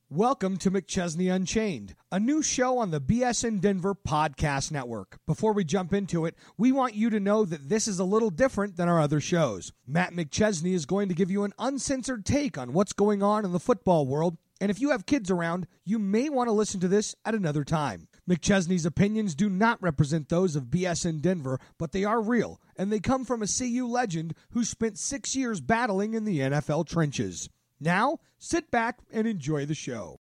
Welcome to McChesney Unchained, a new show on the BSN Denver Podcast Network. Before we jump into it, we want you to know that this is a little different than our other shows. Matt McChesney is going to give you an uncensored take on what's going on in the football world, and if you have kids around, you may want to listen to this at another time. McChesney's opinions do not represent those of BSN Denver, but they are real, and they come from a CU legend who spent 6 years battling in the NFL trenches. Now, sit back and enjoy the show.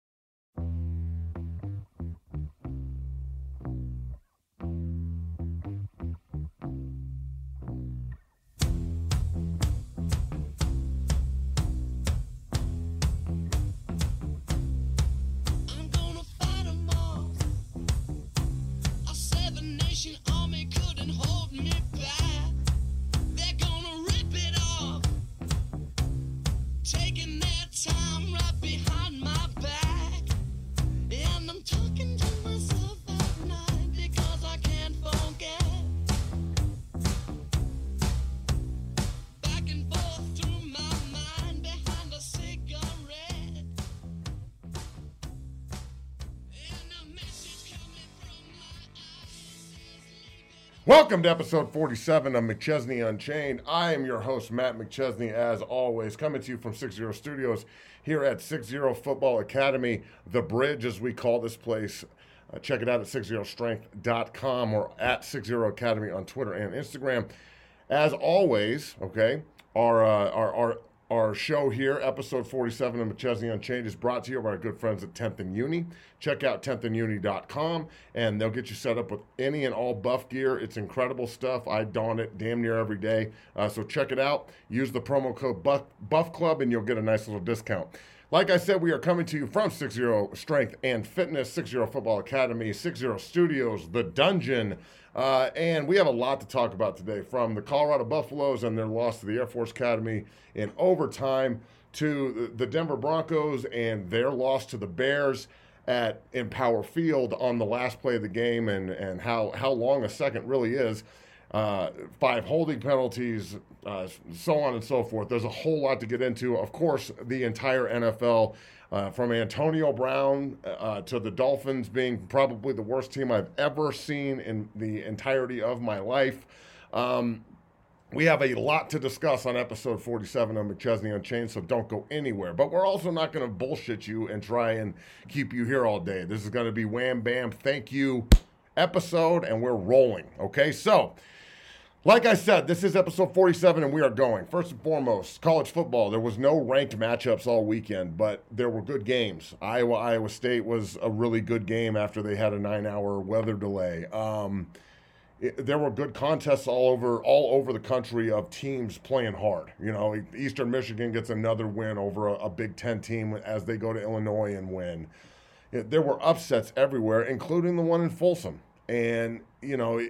Welcome to episode 47 of McChesney Unchained. I am your host, Matt McChesney, as always, coming to you from 60 Studios here at 60 Football Academy, The Bridge, as we call this place. Check it out at 60strength.com or at 60 Academy on Twitter and Instagram. As always, okay, our show here, episode 47 of McChesney Unchained, is brought to you by our good friends at 10th and Uni. Check out 10thanduni.com, and they'll get you set up with any and all buff gear. It's incredible stuff. I don it damn near every day. So check it out. Use the promo code Buff Club, and you'll get a nice little discount. Like I said, we are coming to you from 60 Strength and Fitness, 60 Football Academy, 60 Studios, The Dungeon, and we have a lot to talk about today, from the Colorado Buffaloes and their loss to the Air Force Academy in overtime, to the Denver Broncos and their loss to the Bears at Empower Field on the last play of the game, and how long a second really is. 5 holding penalties, so on and so forth. There's a whole lot to get into. Of course, the entire NFL, from Antonio Brown to the Dolphins being probably the worst team I've ever seen in the entirety of my life. We have a lot to discuss on episode 47 of McChesney Unchained, so don't go anywhere. But we're also not going to bullshit you and try and keep you here all day. This is going to be wham, bam, thank you episode, and we're rolling, okay? So, like I said, this is episode 47, and we are going. First and foremost, college football. There was no ranked matchups all weekend, but there were good games. Iowa State was a really good game after they had a 9-hour weather delay. There were good contests all over the country of teams playing hard. You know, Eastern Michigan gets another win over a Big Ten team as they go to Illinois and win. There were upsets everywhere, including the one in Folsom. And, you know,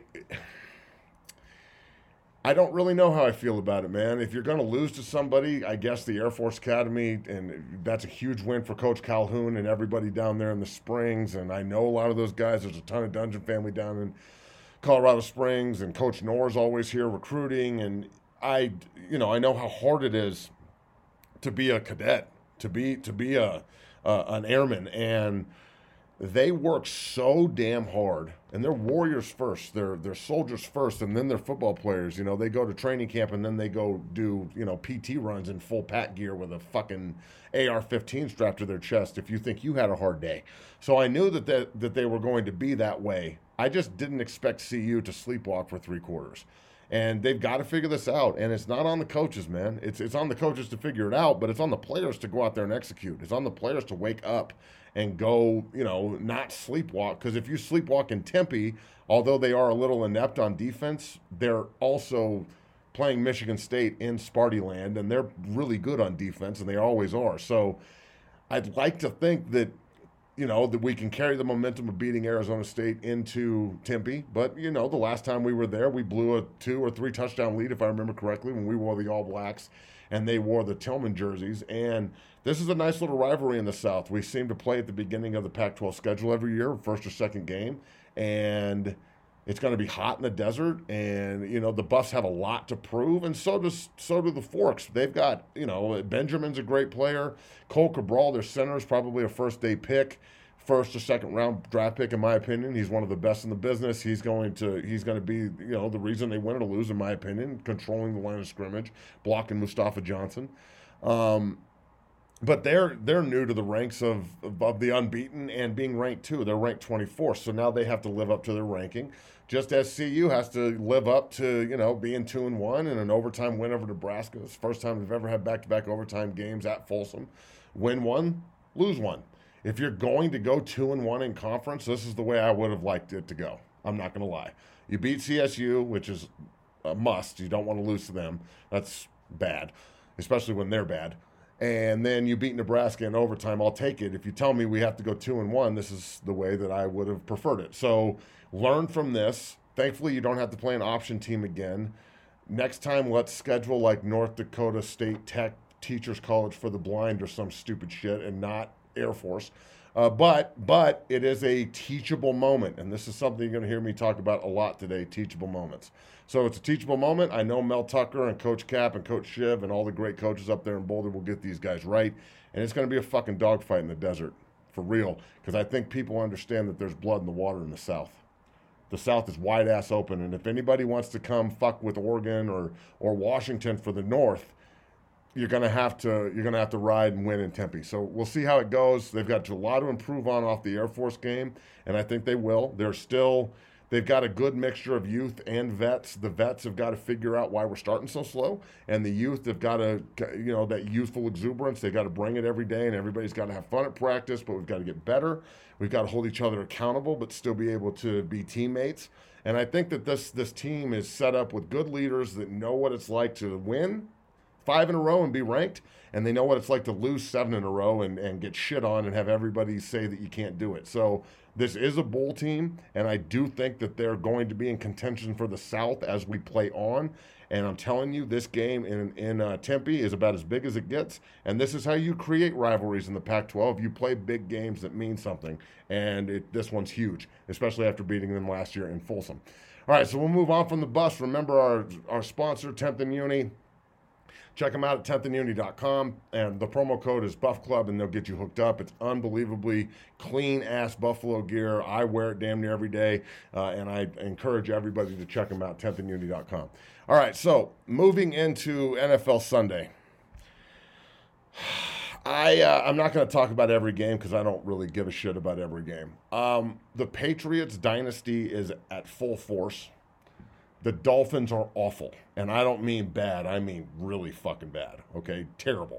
I don't really know how I feel about it, man. If you're going to lose to somebody, I guess the Air Force Academy, and that's a huge win for Coach Calhoun and everybody down there in the Springs. And I know a lot of those guys. There's a ton of Dungeon family down in Colorado Springs, and Coach Knorr's always here recruiting. And I know how hard it is to be a cadet, to be an airman, and they work so damn hard, and they're warriors first, they're soldiers first, and then they're football players. You know, they go to training camp, and then they go do, PT runs in full pack gear with a fucking AR-15 strapped to their chest if you think you had a hard day. So I knew that they were going to be that way. I just didn't expect CU to sleepwalk for 3 quarters. And they've got to figure this out. And it's not on the coaches, man. It's on the coaches to figure it out, but it's on the players to go out there and execute. It's on the players to wake up and go, not sleepwalk. Because if you sleepwalk in Tempe, although they are a little inept on defense, they're also playing Michigan State in Sparty land, and they're really good on defense, and they always are. So I'd like to think that that we can carry the momentum of beating Arizona State into Tempe. But, the last time we were there, we blew a 2 or 3 touchdown lead, if I remember correctly, when we wore the All Blacks and they wore the Tillman jerseys. And this is a nice little rivalry in the South. We seem to play at the beginning of the Pac-12 schedule every year, first or second game. And It's going to be hot in the desert, and the Buffs have a lot to prove, and so do the Forks. They've got Benjamin's a great player. Cole Cabral, their center, is probably a first-day pick, first or second round draft pick in my opinion. He's one of the best in the business. He's going to be the reason they win or lose in my opinion, controlling the line of scrimmage, blocking Mustafa Johnson. But they're new to the ranks of the unbeaten and being ranked too. They're ranked 24th, so now they have to live up to their ranking. Just as CU has to live up to being 2-1 and an overtime win over Nebraska. It's the first time they've ever had back-to-back overtime games at Folsom. Win one, lose one. If you're going to go 2-1 in conference, this is the way I would have liked it to go. I'm not going to lie. You beat CSU, which is a must. You don't want to lose to them. That's bad, especially when they're bad. And then you beat Nebraska in overtime. I'll take it. If you tell me we have to go 2-1, this is the way that I would have preferred it. So learn from this. Thankfully, you don't have to play an option team again. Next time, let's schedule like North Dakota State Tech Teachers College for the Blind or some stupid shit and not Air Force. But it is a teachable moment, and this is something you're going to hear me talk about a lot today, teachable moments. So it's a teachable moment. I know Mel Tucker and Coach Cap and Coach Shiv and all the great coaches up there in Boulder will get these guys right, and it's going to be a fucking dogfight in the desert, for real, because I think people understand that there's blood in the water in the South. The South is wide-ass open, and if anybody wants to come fuck with Oregon or Washington for the North, you're gonna have to ride and win in Tempe. So we'll see how it goes. They've got a lot to improve on off the Air Force game, and I think they will. They've got a good mixture of youth and vets. The vets have got to figure out why we're starting so slow, and the youth have got to, that youthful exuberance. They got to bring it every day, and everybody's got to have fun at practice. But we've got to get better. We've got to hold each other accountable, but still be able to be teammates. And I think that this team is set up with good leaders that know what it's like to win 5 in a row and be ranked, and they know what it's like to lose 7 in a row and get shit on and have everybody say that you can't do it. So this is a bowl team, and I do think that they're going to be in contention for the South as we play on. And I'm telling you, this game in Tempe is about as big as it gets, and this is how you create rivalries in the Pac-12. You play big games that mean something, and this one's huge, especially after beating them last year in Folsom. All right, so we'll move on from the bus. Remember our sponsor, 10th and Uni. Check them out at 10thanduni.com, and the promo code is Buff Club, and they'll get you hooked up. It's unbelievably clean-ass Buffalo gear. I wear it damn near every day, and I encourage everybody to check them out, 10thanduni.com. All right, so moving into NFL Sunday. I'm not going to talk about every game because I don't really give a shit about every game. The Patriots dynasty is at full force. The Dolphins are awful, and I don't mean bad. I mean really fucking bad, okay? Terrible.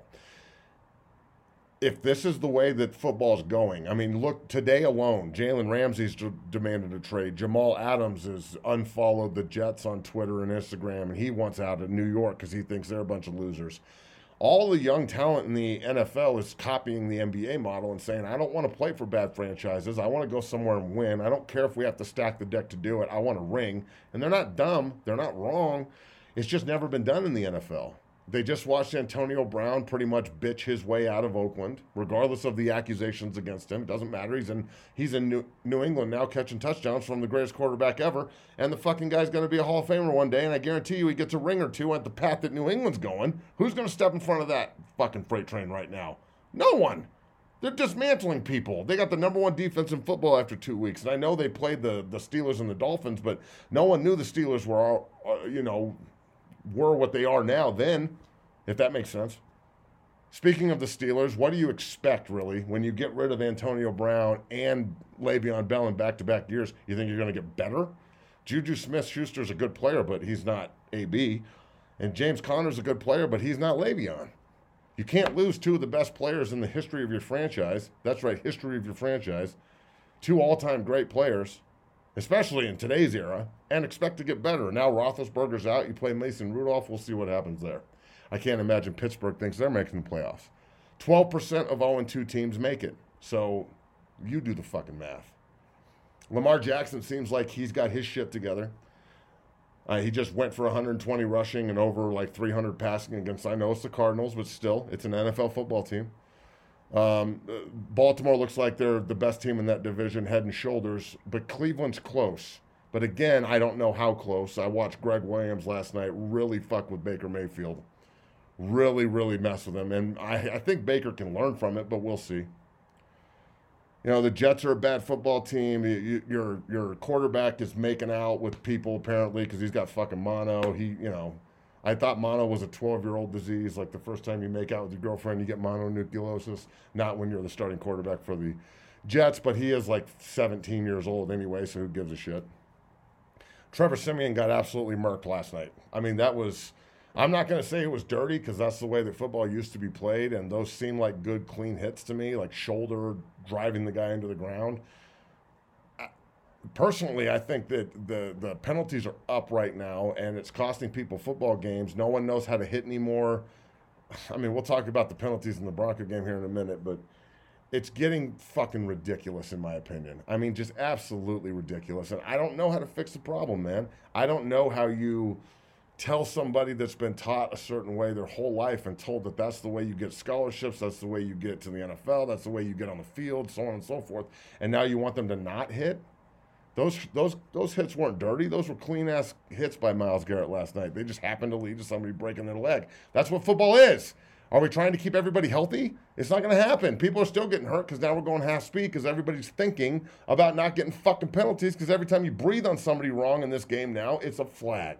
If this is the way that football's going, I mean, look, today alone, Jalen Ramsey's demanded a trade. Jamal Adams has unfollowed the Jets on Twitter and Instagram, and he wants out of New York because he thinks they're a bunch of losers. All the young talent in the NFL is copying the NBA model and saying, I don't want to play for bad franchises. I want to go somewhere and win. I don't care if we have to stack the deck to do it. I want a ring. And they're not dumb. They're not wrong. It's just never been done in the NFL. They just watched Antonio Brown pretty much bitch his way out of Oakland, regardless of the accusations against him. It doesn't matter. He's in New England now catching touchdowns from the greatest quarterback ever, and the fucking guy's going to be a Hall of Famer one day, and I guarantee you he gets a ring or two at the path that New England's going. Who's going to step in front of that fucking freight train right now? No one. They're dismantling people. They got the number 1 defense in football after 2 weeks, and I know they played the Steelers and the Dolphins, but no one knew the Steelers were, were what they are now then, if that makes sense. Speaking of the Steelers, what do you expect, really, when you get rid of Antonio Brown and Le'Veon Bell in back-to-back years? You think you're going to get better? Juju Smith-Schuster's a good player, but he's not AB. And James Conner's a good player, but he's not Le'Veon. You can't lose 2 of the best players in the history of your franchise. That's right, history of your franchise. 2 all-time great players, especially in today's era, and expect to get better. Now Roethlisberger's out. You play Mason Rudolph. We'll see what happens there. I can't imagine Pittsburgh thinks they're making the playoffs. 12% of 0-2 teams make it. So you do the fucking math. Lamar Jackson seems like he's got his shit together. He just went for 120 rushing and over like 300 passing against, I know it's the Cardinals, but still, it's an NFL football team. Baltimore looks like they're the best team in that division, head and shoulders, but Cleveland's close. But again, I don't know how close. I watched Greg Williams last night really fuck with Baker Mayfield. Really, really mess with him. And I think Baker can learn from it, but we'll see. You know, the Jets are a bad football team. Your quarterback is making out with people apparently because he's got fucking mono. I thought mono was a 12-year-old disease. Like the first time you make out with your girlfriend, you get mononucleosis. Not when you're the starting quarterback for the Jets, but he is like 17 years old anyway, so who gives a shit? Trevor Siemian got absolutely murked last night. I mean, I'm not going to say it was dirty because that's the way that football used to be played, and those seem like good, clean hits to me, like shoulder driving the guy into the ground. Personally, I think that the penalties are up right now, and it's costing people football games. No one knows how to hit anymore. I mean, we'll talk about the penalties in the Bronco game here in a minute, but it's getting fucking ridiculous in my opinion. I mean, just absolutely ridiculous. And I don't know how to fix the problem, man. I don't know how you tell somebody that's been taught a certain way their whole life and told that that's the way you get scholarships, that's the way you get to the NFL, that's the way you get on the field, so on and so forth. And now you want them to not hit? Those hits weren't dirty. Those were clean-ass hits by Myles Garrett last night. They just happened to lead to somebody breaking their leg. That's what football is. Are we trying to keep everybody healthy? It's not going to happen. People are still getting hurt because now we're going half speed because everybody's thinking about not getting fucking penalties because every time you breathe on somebody wrong in this game now, it's a flag.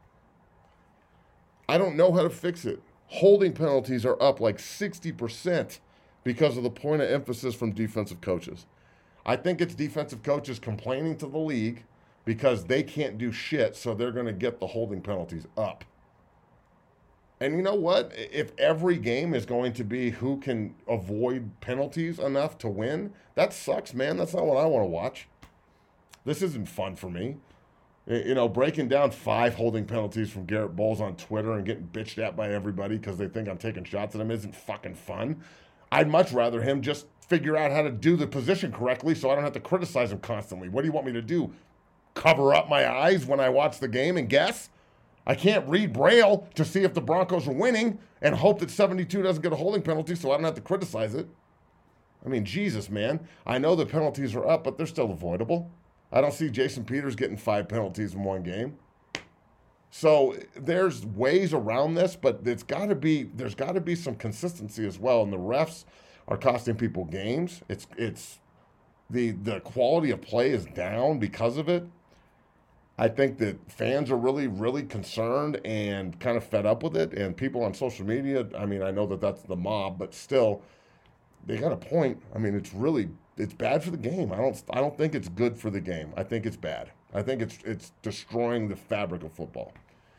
I don't know how to fix it. Holding penalties are up like 60% because of the point of emphasis from defensive coaches. I think it's defensive coaches complaining to the league because they can't do shit, so they're going to get the holding penalties up. And you know what? If every game is going to be who can avoid penalties enough to win, that sucks, man. That's not what I want to watch. This isn't fun for me. You know, breaking down 5 holding penalties from Garrett Bowles on Twitter and getting bitched at by everybody because they think I'm taking shots at him isn't fucking fun. I'd much rather him just figure out how to do the position correctly so I don't have to criticize him constantly. What do you want me to do? Cover up my eyes when I watch the game and guess? I can't read Braille to see if the Broncos are winning and hope that 72 doesn't get a holding penalty so I don't have to criticize it. I mean, Jesus, man. I know the penalties are up, but they're still avoidable. I don't see Jason Peters getting 5 penalties in one game. So there's ways around this, but there's got to be some consistency as well. And the refs are costing people games. It's the quality of play is down because of it. I think that fans are really, really concerned and kind of fed up with it. And people on social media, I mean, I know that that's the mob, but still, they got a point. I mean, it's bad for the game. I don't think it's good for the game. I think it's bad. I think it's destroying the fabric of football.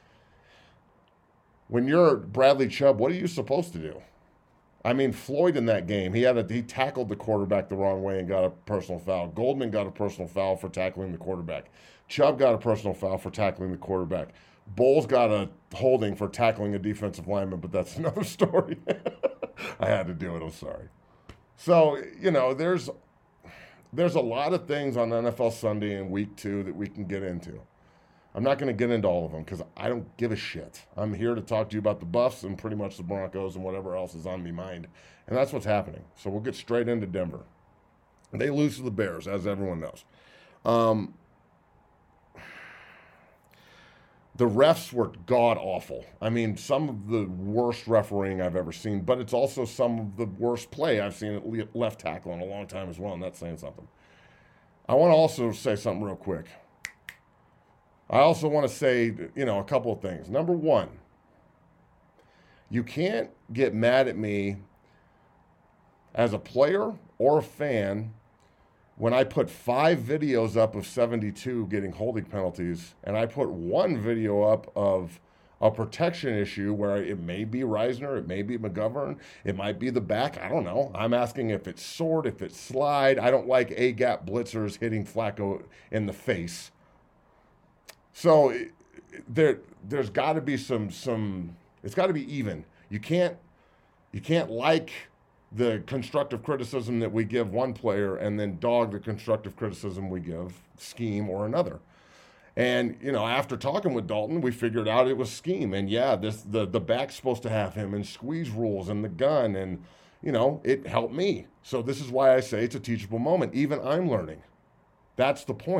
When you're Bradley Chubb, what are you supposed to do? I mean, Floyd in that game, he tackled the quarterback the wrong way and got a personal foul. Goldman got a personal foul for tackling the quarterback. Chubb got a personal foul for tackling the quarterback. Bowles got a holding for tackling a defensive lineman, but that's another story. I had to do it. I'm sorry. So, you know, there's a lot of things on NFL Sunday and Week 2 that we can get into. I'm not going to get into all of them because I don't give a shit. I'm here to talk to you about the Buffs and pretty much the Broncos and whatever else is on my mind. And that's what's happening. So we'll get straight into Denver. They lose to the Bears, as everyone knows. The refs were god-awful. I mean, some of the worst refereeing I've ever seen, but it's also some of the worst play I've seen at left tackle in a long time as well, and that's saying something. I want to also say something real quick. I also want to say, you know, a couple of things. Number one, you can't get mad at me as a player or a fan when I put 5 videos up of 72 getting holding penalties, and I put 1 video up of a protection issue where it may be Reisner, it may be McGovern, it might be the back, I don't know. I'm asking if it's sword, if it's slide. I don't like A-gap blitzers hitting Flacco in the face. So there's got to be some. It's got to be even. You can't like the constructive criticism that we give one player and then dog the constructive criticism we give scheme or another. And, you know, after talking with Dalton, we figured out it was scheme. And, yeah, the back's supposed to have him and squeeze rules and the gun. And, you know, it helped me. So this is why I say it's a teachable moment. Even I'm learning. That's the point.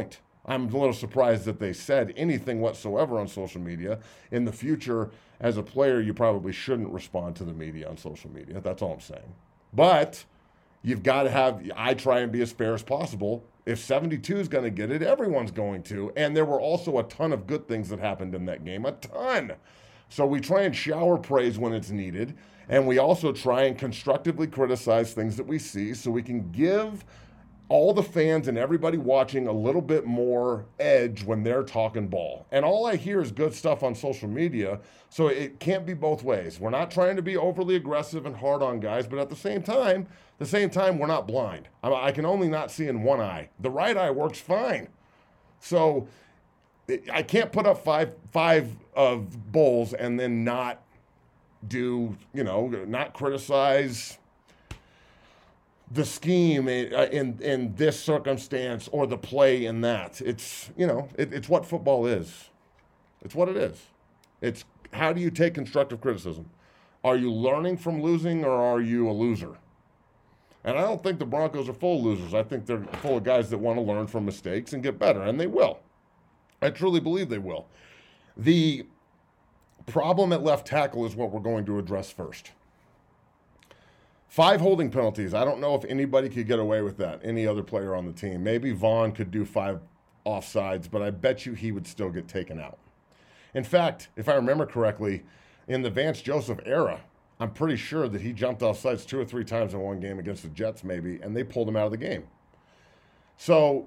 I'm a little surprised that they said anything whatsoever on social media. In the future, as a player, you probably shouldn't respond to the media on social media. That's all I'm saying. But you've got to I try and be as fair as possible. If 72 is going to get it, everyone's going to. And there were also a ton of good things that happened in that game, a ton. So we try and shower praise when it's needed. And we also try and constructively criticize things that we see so we can give all the fans and everybody watching a little bit more edge when they're talking ball. And all I hear is good stuff on social media, so it can't be both ways. We're not trying to be overly aggressive and hard on guys, but at the same time, we're not blind. I can only not see in one eye. The right eye works fine. So I can't put up five of Bulls and then not not criticize the scheme in this circumstance or the play in that. It's what football is. It's what it is. It's how do you take constructive criticism? Are you learning from losing or are you a loser? And I don't think the Broncos are full of losers. I think they're full of guys that want to learn from mistakes and get better, and they will. I truly believe they will. The problem at left tackle is what we're going to address first. 5 holding penalties. I don't know if anybody could get away with that, any other player on the team. Maybe Vaughn could do 5 offsides, but I bet you he would still get taken out. In fact, if I remember correctly, in the Vance Joseph era, I'm pretty sure that he jumped offsides 2 or 3 times in one game against the Jets maybe, and they pulled him out of the game. So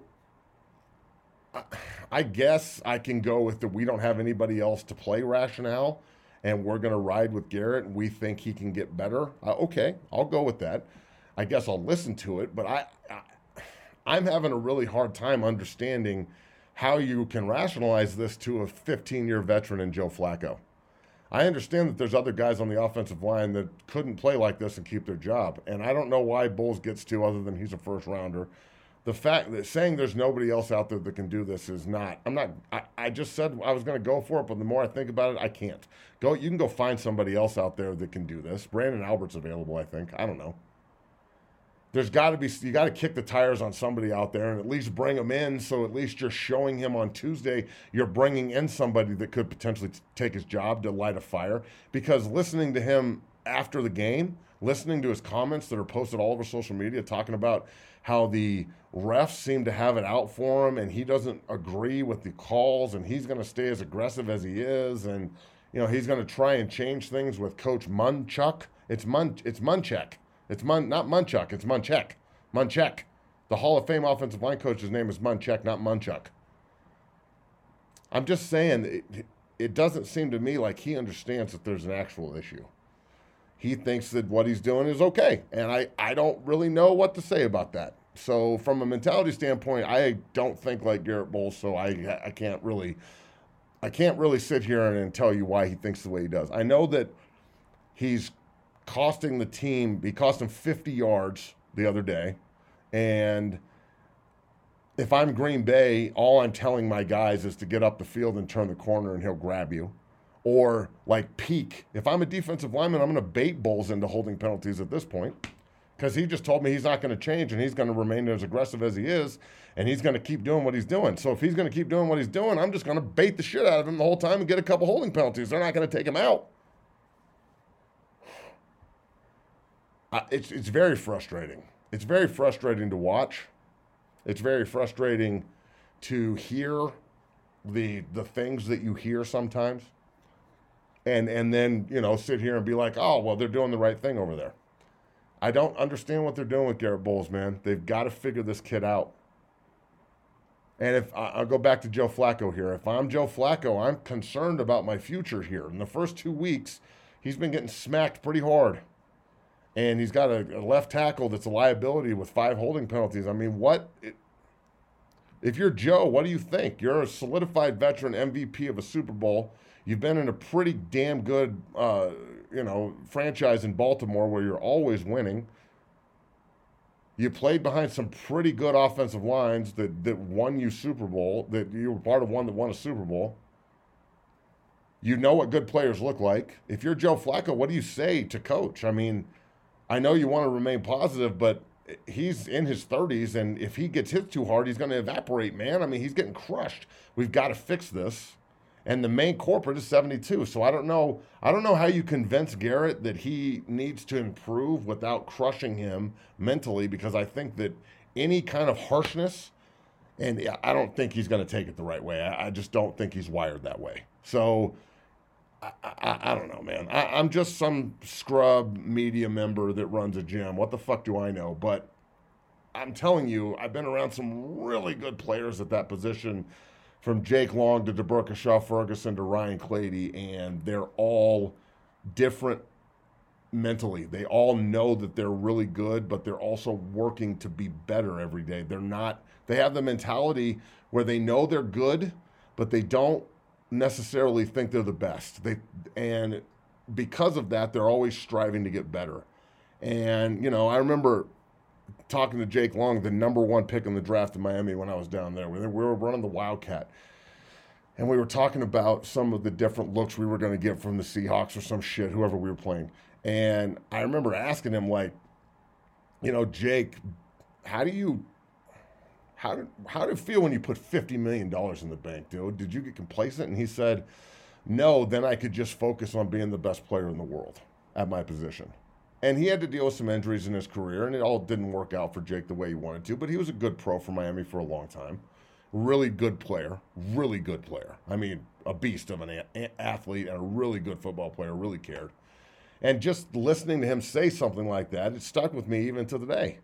I guess I can go with we don't have anybody else to play rationale, and we're going to ride with Garrett, and we think he can get better. Okay, I'll go with that. I guess I'll listen to it, but I'm having a really hard time understanding how you can rationalize this to a 15-year veteran in Joe Flacco. I understand that there's other guys on the offensive line that couldn't play like this and keep their job, and I don't know why Bulls gets to other than he's a first-rounder. The fact that saying there's nobody else out there that can do this is not. I just said I was going to go for it, but the more I think about it, I can't. You can go find somebody else out there that can do this. Brandon Albert's available, I think. I don't know. There's got to be. You got to kick the tires on somebody out there and at least bring him in. So at least you're showing him on Tuesday you're bringing in somebody that could potentially take his job to light a fire. Because listening to him after the game, listening to his comments that are posted all over social media talking about how the refs seem to have it out for him and he doesn't agree with the calls and he's going to stay as aggressive as he is and he's going to try and change things with Coach Munchak. It's Munchak. It's not Munchak, it's Munchak. Munchak. The Hall of Fame offensive line coach's name is Munchak, not Munchak. I'm just saying it doesn't seem to me like he understands that there's an actual issue. He thinks that what he's doing is okay, and I don't really know what to say about that. So from a mentality standpoint, I don't think like Garrett Bowles, so I can't really sit here and tell you why he thinks the way he does. I know that he's costing the team. He cost him 50 yards the other day, and if I'm Green Bay, all I'm telling my guys is to get up the field and turn the corner, and he'll grab you. Or like peak. If I'm a defensive lineman, I'm going to bait Bulls into holding penalties at this point because he just told me he's not going to change and he's going to remain as aggressive as he is and he's going to keep doing what he's doing. So if he's going to keep doing what he's doing, I'm just going to bait the shit out of him the whole time and get a couple holding penalties. They're not going to take him out. It's very frustrating. It's very frustrating to watch. It's very frustrating to hear the things that you hear sometimes. And then, sit here and be like, oh, well, they're doing the right thing over there. I don't understand what they're doing with Garrett Bowles, man. They've got to figure this kid out. And if I'll go back to Joe Flacco here. If I'm Joe Flacco, I'm concerned about my future here. In the first 2 weeks, he's been getting smacked pretty hard. And he's got a left tackle that's a liability with 5 holding penalties. I mean, if you're Joe, what do you think? You're a solidified veteran MVP of a Super Bowl. You've been in a pretty damn good, franchise in Baltimore where you're always winning. You played behind some pretty good offensive lines that won you Super Bowl, that you were part of one that won a Super Bowl. You know what good players look like. If you're Joe Flacco, what do you say to coach? I mean, I know you want to remain positive, but he's in his 30s, and if he gets hit too hard, he's going to evaporate, man. I mean, he's getting crushed. We've got to fix this. And the main corporate is 72. So I don't know how you convince Garrett that he needs to improve without crushing him mentally, because I think that any kind of harshness, and I don't think he's going to take it the right way. I just don't think he's wired that way. So I don't know, man. I'm just some scrub media member that runs a gym. What the fuck do I know? But I'm telling you, I've been around some really good players at that position, from Jake Long to DeBurka Shaw-Ferguson to Ryan Clady, and they're all different mentally. They all know that they're really good, but they're also working to be better every day. They have the mentality where they know they're good, but they don't necessarily think they're the best. And because of that, they're always striving to get better. And, I remember talking to Jake Long, the number 1 pick in the draft in Miami when I was down there. We were running the Wildcat. And we were talking about some of the different looks we were going to get from the Seahawks or some shit, whoever we were playing. And I remember asking him, Jake, how did it feel when you put $50 million in the bank, dude? Did you get complacent? And he said, no, then I could just focus on being the best player in the world at my position. And he had to deal with some injuries in his career, and it all didn't work out for Jake the way he wanted to, but he was a good pro for Miami for a long time. Really good player. I mean, a beast of an athlete and a really good football player, really cared. And just listening to him say something like that, it stuck with me even to the day.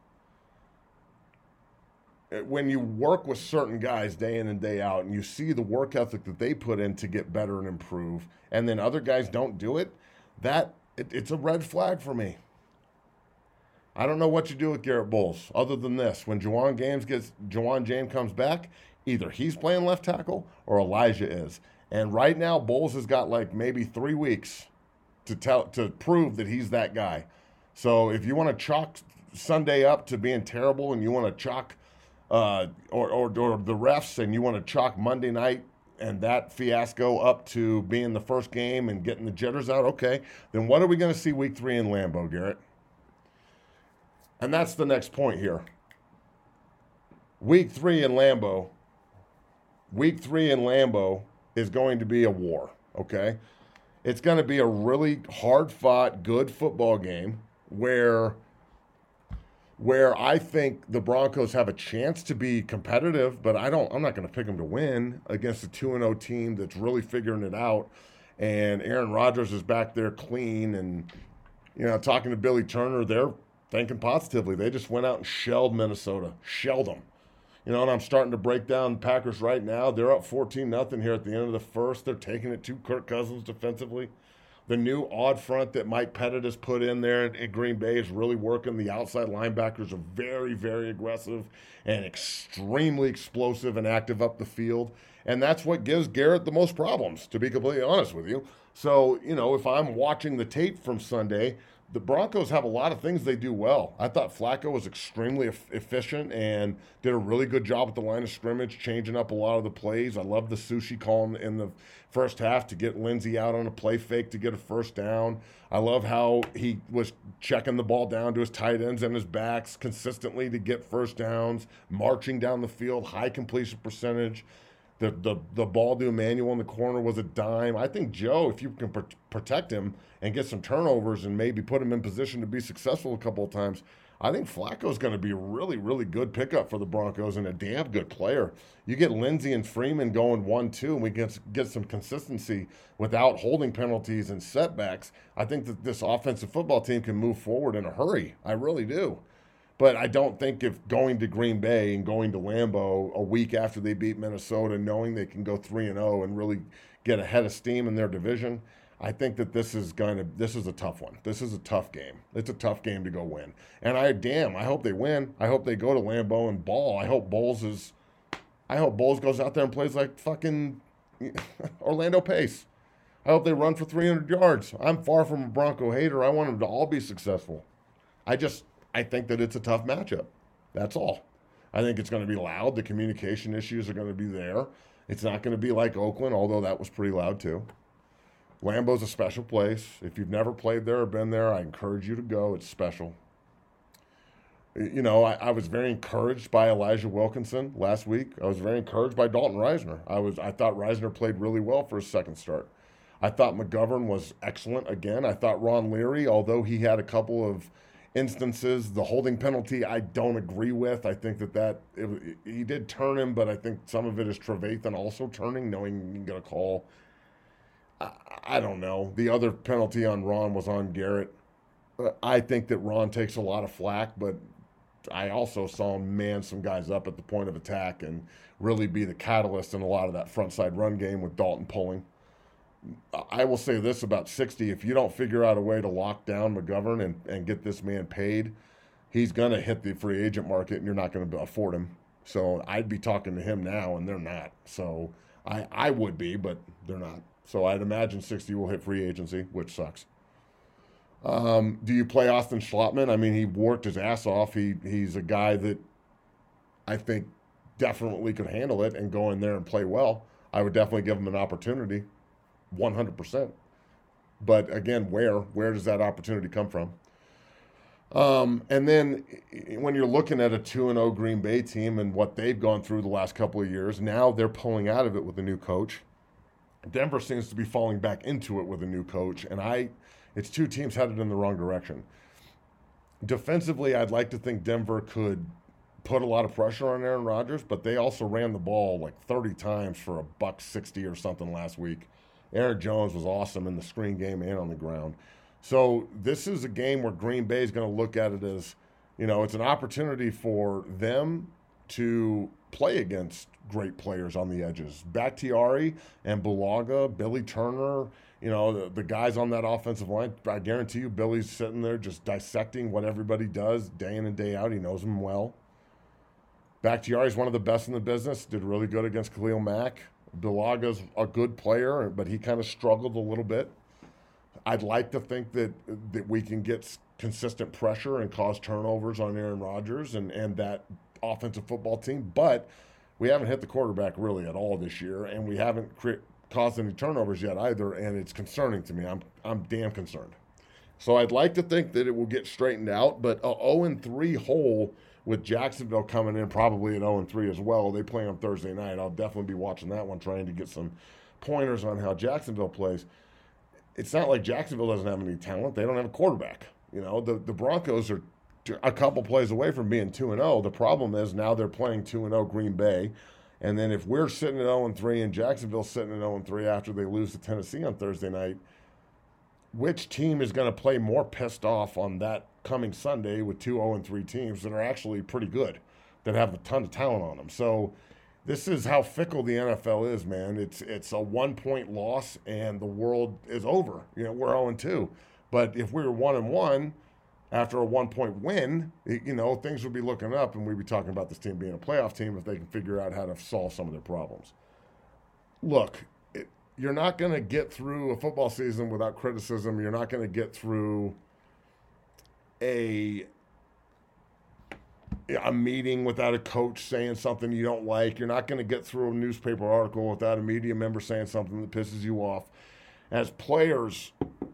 When you work with certain guys day in and day out, and you see the work ethic that they put in to get better and improve, and then other guys don't do it, it's a red flag for me. I don't know what you do with Garrett Bowles other than this. When Juwan James comes back, either he's playing left tackle or Elijah is. And right now, Bowles has got maybe 3 weeks to prove that he's that guy. So if you want to chalk Sunday up to being terrible, and you want to chalk or the refs, and you want to chalk Monday night and that fiasco up to being the first game and getting the jitters out, okay, then what are we going to see week 3 in Lambeau, Garrett? And that's the next point here. Week 3 in Lambeau is going to be a war, okay? It's going to be a really hard-fought, good football game where I think the Broncos have a chance to be competitive, but I'm not going to pick them to win against a 2-0 team that's really figuring it out. And Aaron Rodgers is back there clean, and talking to Billy Turner, they're thinking positively. They just went out and shelled Minnesota, shelled them. And I'm starting to break down Packers right now. They're up 14-0 here at the end of the first. They're taking it to Kirk Cousins defensively. The new odd front that Mike Pettit has put in there in Green Bay is really working. The outside linebackers are very, very aggressive and extremely explosive and active up the field. And that's what gives Garrett the most problems, to be completely honest with you. So, if I'm watching the tape from Sunday, the Broncos have a lot of things they do well. I thought Flacco was extremely efficient and did a really good job at the line of scrimmage, changing up a lot of the plays. I love the sushi call in the first half to get Lindsey out on a play fake to get a first down. I love how he was checking the ball down to his tight ends and his backs consistently to get first downs, marching down the field, high completion percentage. The ball to Emmanuel in the corner was a dime. I think Joe, if you can protect him and get some turnovers and maybe put him in position to be successful a couple of times, I think Flacco's going to be a really, really good pickup for the Broncos and a damn good player. You get Lindsey and Freeman going 1-2, and we get some consistency without holding penalties and setbacks. I think that this offensive football team can move forward in a hurry. I really do. But I don't think if going to Green Bay and going to Lambeau a week after they beat Minnesota, knowing they can go 3-0 and really get a head of steam in their division, I think that this is a tough one. This is a tough game. It's a tough game to go win. And I hope they win. I hope they go to Lambeau and ball. I hope Bowles goes out there and plays like fucking Orlando Pace. I hope they run for 300 yards. I'm far from a Bronco hater. I want them to all be successful. I think that it's a tough matchup. That's all. I think it's going to be loud. The communication issues are going to be there. It's not going to be like Oakland, although that was pretty loud too. Lambeau's a special place. If you've never played there or been there, I encourage you to go. It's special. I was very encouraged by Elijah Wilkinson last week. I was very encouraged by Dalton Reisner. I thought Reisner played really well for his second start. I thought McGovern was excellent again. I thought Ron Leary, although he had a couple of instances, the holding penalty I don't agree with. I think he did turn him, but I think some of it is Trevathan also turning, knowing he's going to call. I don't know. The other penalty on Ron was on Garrett. I think that Ron takes a lot of flack, but I also saw him man some guys up at the point of attack and really be the catalyst in a lot of that front side run game with Dalton pulling. I will say this about 60. If you don't figure out a way to lock down McGovern and get this man paid, he's going to hit the free agent market and you're not going to afford him. So I'd be talking to him now, and they're not. So I would be, but they're not. So I'd imagine 60 will hit free agency, which sucks. Do you play Austin Schlottman? I mean, he worked his ass off. He's a guy that I think definitely could handle it and go in there and play well. I would definitely give him an opportunity, 100%. But again, where does that opportunity come from? And then when you're looking at a 2-0 Green Bay team and what they've gone through the last couple of years, now they're pulling out of it with a new coach. Denver seems to be falling back into it with a new coach, and it's two teams headed in the wrong direction. Defensively, I'd like to think Denver could put a lot of pressure on Aaron Rodgers, but they also ran the ball like 30 times for $160 or something last week. Aaron Jones was awesome in the screen game and on the ground. So this is a game where Green Bay is going to look at it as, it's an opportunity for them to play against great players on the edges. Bakhtiari and Bulaga, Billy Turner, the guys on that offensive line. I guarantee you Billy's sitting there just dissecting what everybody does day in and day out. He knows them well. Bakhtiari's one of the best in the business, did really good against Khalil Mack. Bulaga's a good player, but he kind of struggled a little bit. I'd like to think that we can get consistent pressure and cause turnovers on Aaron Rodgers and that offensive football team, but we haven't hit the quarterback really at all this year, and we haven't caused any turnovers yet either, and it's concerning to me. I'm damn concerned. So I'd like to think that it will get straightened out, but a 0-3 hole with Jacksonville coming in probably at 0-3 as well. They play on Thursday night. I'll definitely be watching that one, trying to get some pointers on how Jacksonville plays. It's not like Jacksonville doesn't have any talent. They don't have a quarterback. The Broncos are a couple plays away from being 2-0. The problem is now they're playing 2-0 Green Bay. And then if we're sitting at 0-3 and Jacksonville's sitting at 0-3 after they lose to Tennessee on Thursday night, which team is going to play more pissed off on that coming Sunday with two 0-3 teams that are actually pretty good, that have a ton of talent on them? So this is how fickle the NFL is, man. It's a 1-point loss and the world is over. We're 0-2. But if we were 1-1 after a 1-point win, things would be looking up, and we'd be talking about this team being a playoff team if they can figure out how to solve some of their problems. Look, you're not going to get through a football season without criticism. You're not going to get through a meeting without a coach saying something you don't like. You're not going to get through a newspaper article without a media member saying something that pisses you off. As players,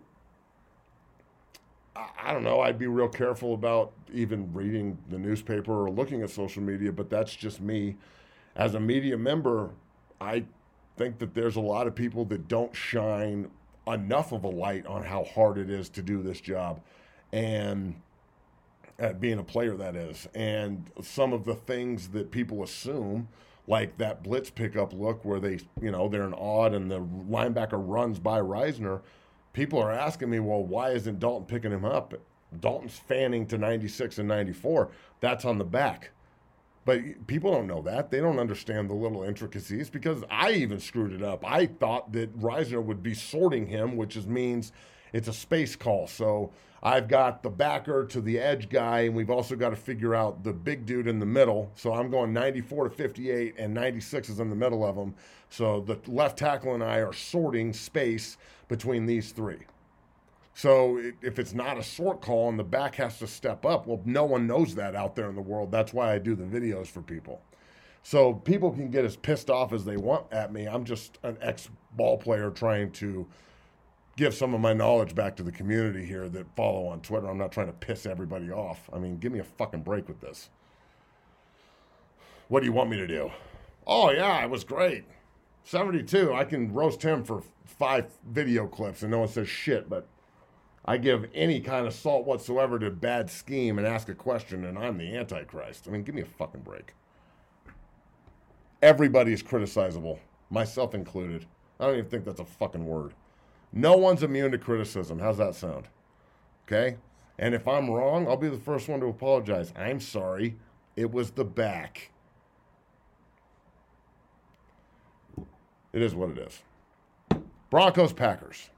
I don't know, I'd be real careful about even reading the newspaper or looking at social media, but that's just me. As a media member, I think that there's a lot of people that don't shine enough of a light on how hard it is to do this job, and at being a player, that is. And some of the things that people assume, like that blitz pickup look where they're an odd and the linebacker runs by Reisner, people are asking me, well, why isn't Dalton picking him up? Dalton's fanning to 96 and 94. That's on the back. But people don't know that. They don't understand the little intricacies, because I even screwed it up. I thought that Reisner would be sorting him, which means it's a space call. So I've got the backer to the edge guy, and we've also got to figure out the big dude in the middle. So I'm going 94 to 58, and 96 is in the middle of them. So the left tackle and I are sorting space between these three. So if it's not a sort call and the back has to step up, well, no one knows that out there in the world. That's why I do the videos for people. So people can get as pissed off as they want at me. I'm just an ex-ball player trying to give some of my knowledge back to the community here that follow on Twitter. I'm not trying to piss everybody off. I mean, give me a fucking break with this. What do you want me to do? Oh, yeah, it was great. 72. I can roast him for 5 video clips and no one says shit, but I give any kind of salt whatsoever to bad scheme and ask a question, and I'm the Antichrist. I mean, give me a fucking break. Everybody is criticizable, myself included. I don't even think that's a fucking word. No one's immune to criticism. How's that sound? Okay? And if I'm wrong, I'll be the first one to apologize. I'm sorry. It was the back. It is what it is. Broncos, Packers.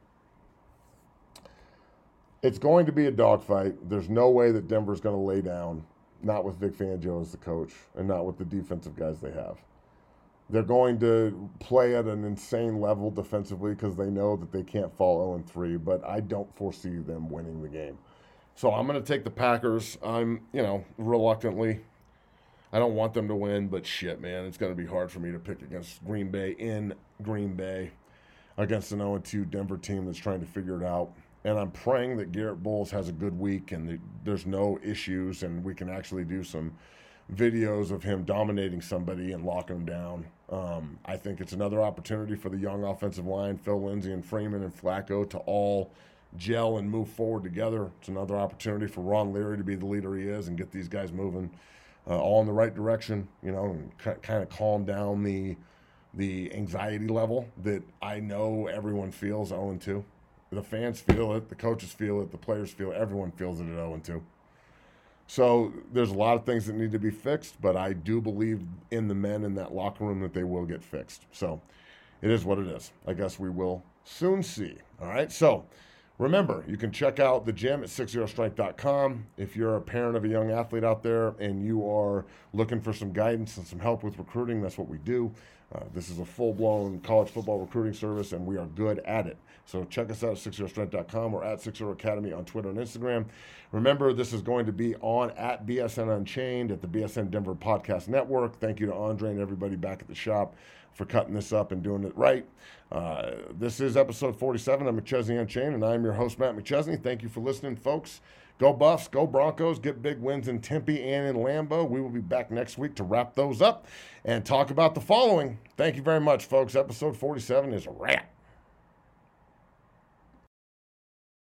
It's going to be a dogfight. There's no way that Denver's going to lay down, not with Vic Fangio as the coach and not with the defensive guys they have. They're going to play at an insane level defensively because they know that they can't fall 0-3, but I don't foresee them winning the game. So I'm going to take the Packers. I'm, reluctantly. I don't want them to win, but shit, man, it's going to be hard for me to pick against Green Bay in Green Bay against an 0-2 Denver team that's trying to figure it out. And I'm praying that Garrett Bowles has a good week and there's no issues and we can actually do some videos of him dominating somebody and locking him down. I think it's another opportunity for the young offensive line, Phil Lindsay and Freeman and Flacco, to all gel and move forward together. It's another opportunity for Ron Leary to be the leader he is and get these guys moving all in the right direction, and kind of calm down the anxiety level that I know everyone feels 0-2. The fans feel it, the coaches feel it, the players feel it, everyone feels it at 0-2. So there's a lot of things that need to be fixed, but I do believe in the men in that locker room that they will get fixed. So it is what it is. I guess we will soon see. All right, so remember, you can check out the gym at 60strength.com. If you're a parent of a young athlete out there and you are looking for some guidance and some help with recruiting, that's what we do. This is a full-blown college football recruiting service, and we are good at it. So check us out at 60strength.com or at 60 Academy on Twitter and Instagram. Remember, this is going to be on at BSN Unchained at the BSN Denver Podcast Network. Thank you to Andre and everybody back at the shop for cutting this up and doing it right. This is episode 47 of McChesney Unchained, and I'm your host, Matt McChesney. Thank you for listening, folks. Go Buffs, go Broncos, get big wins in Tempe and in Lambeau. We will be back next week to wrap those up and talk about the following. Thank you very much, folks. Episode 47 is a wrap.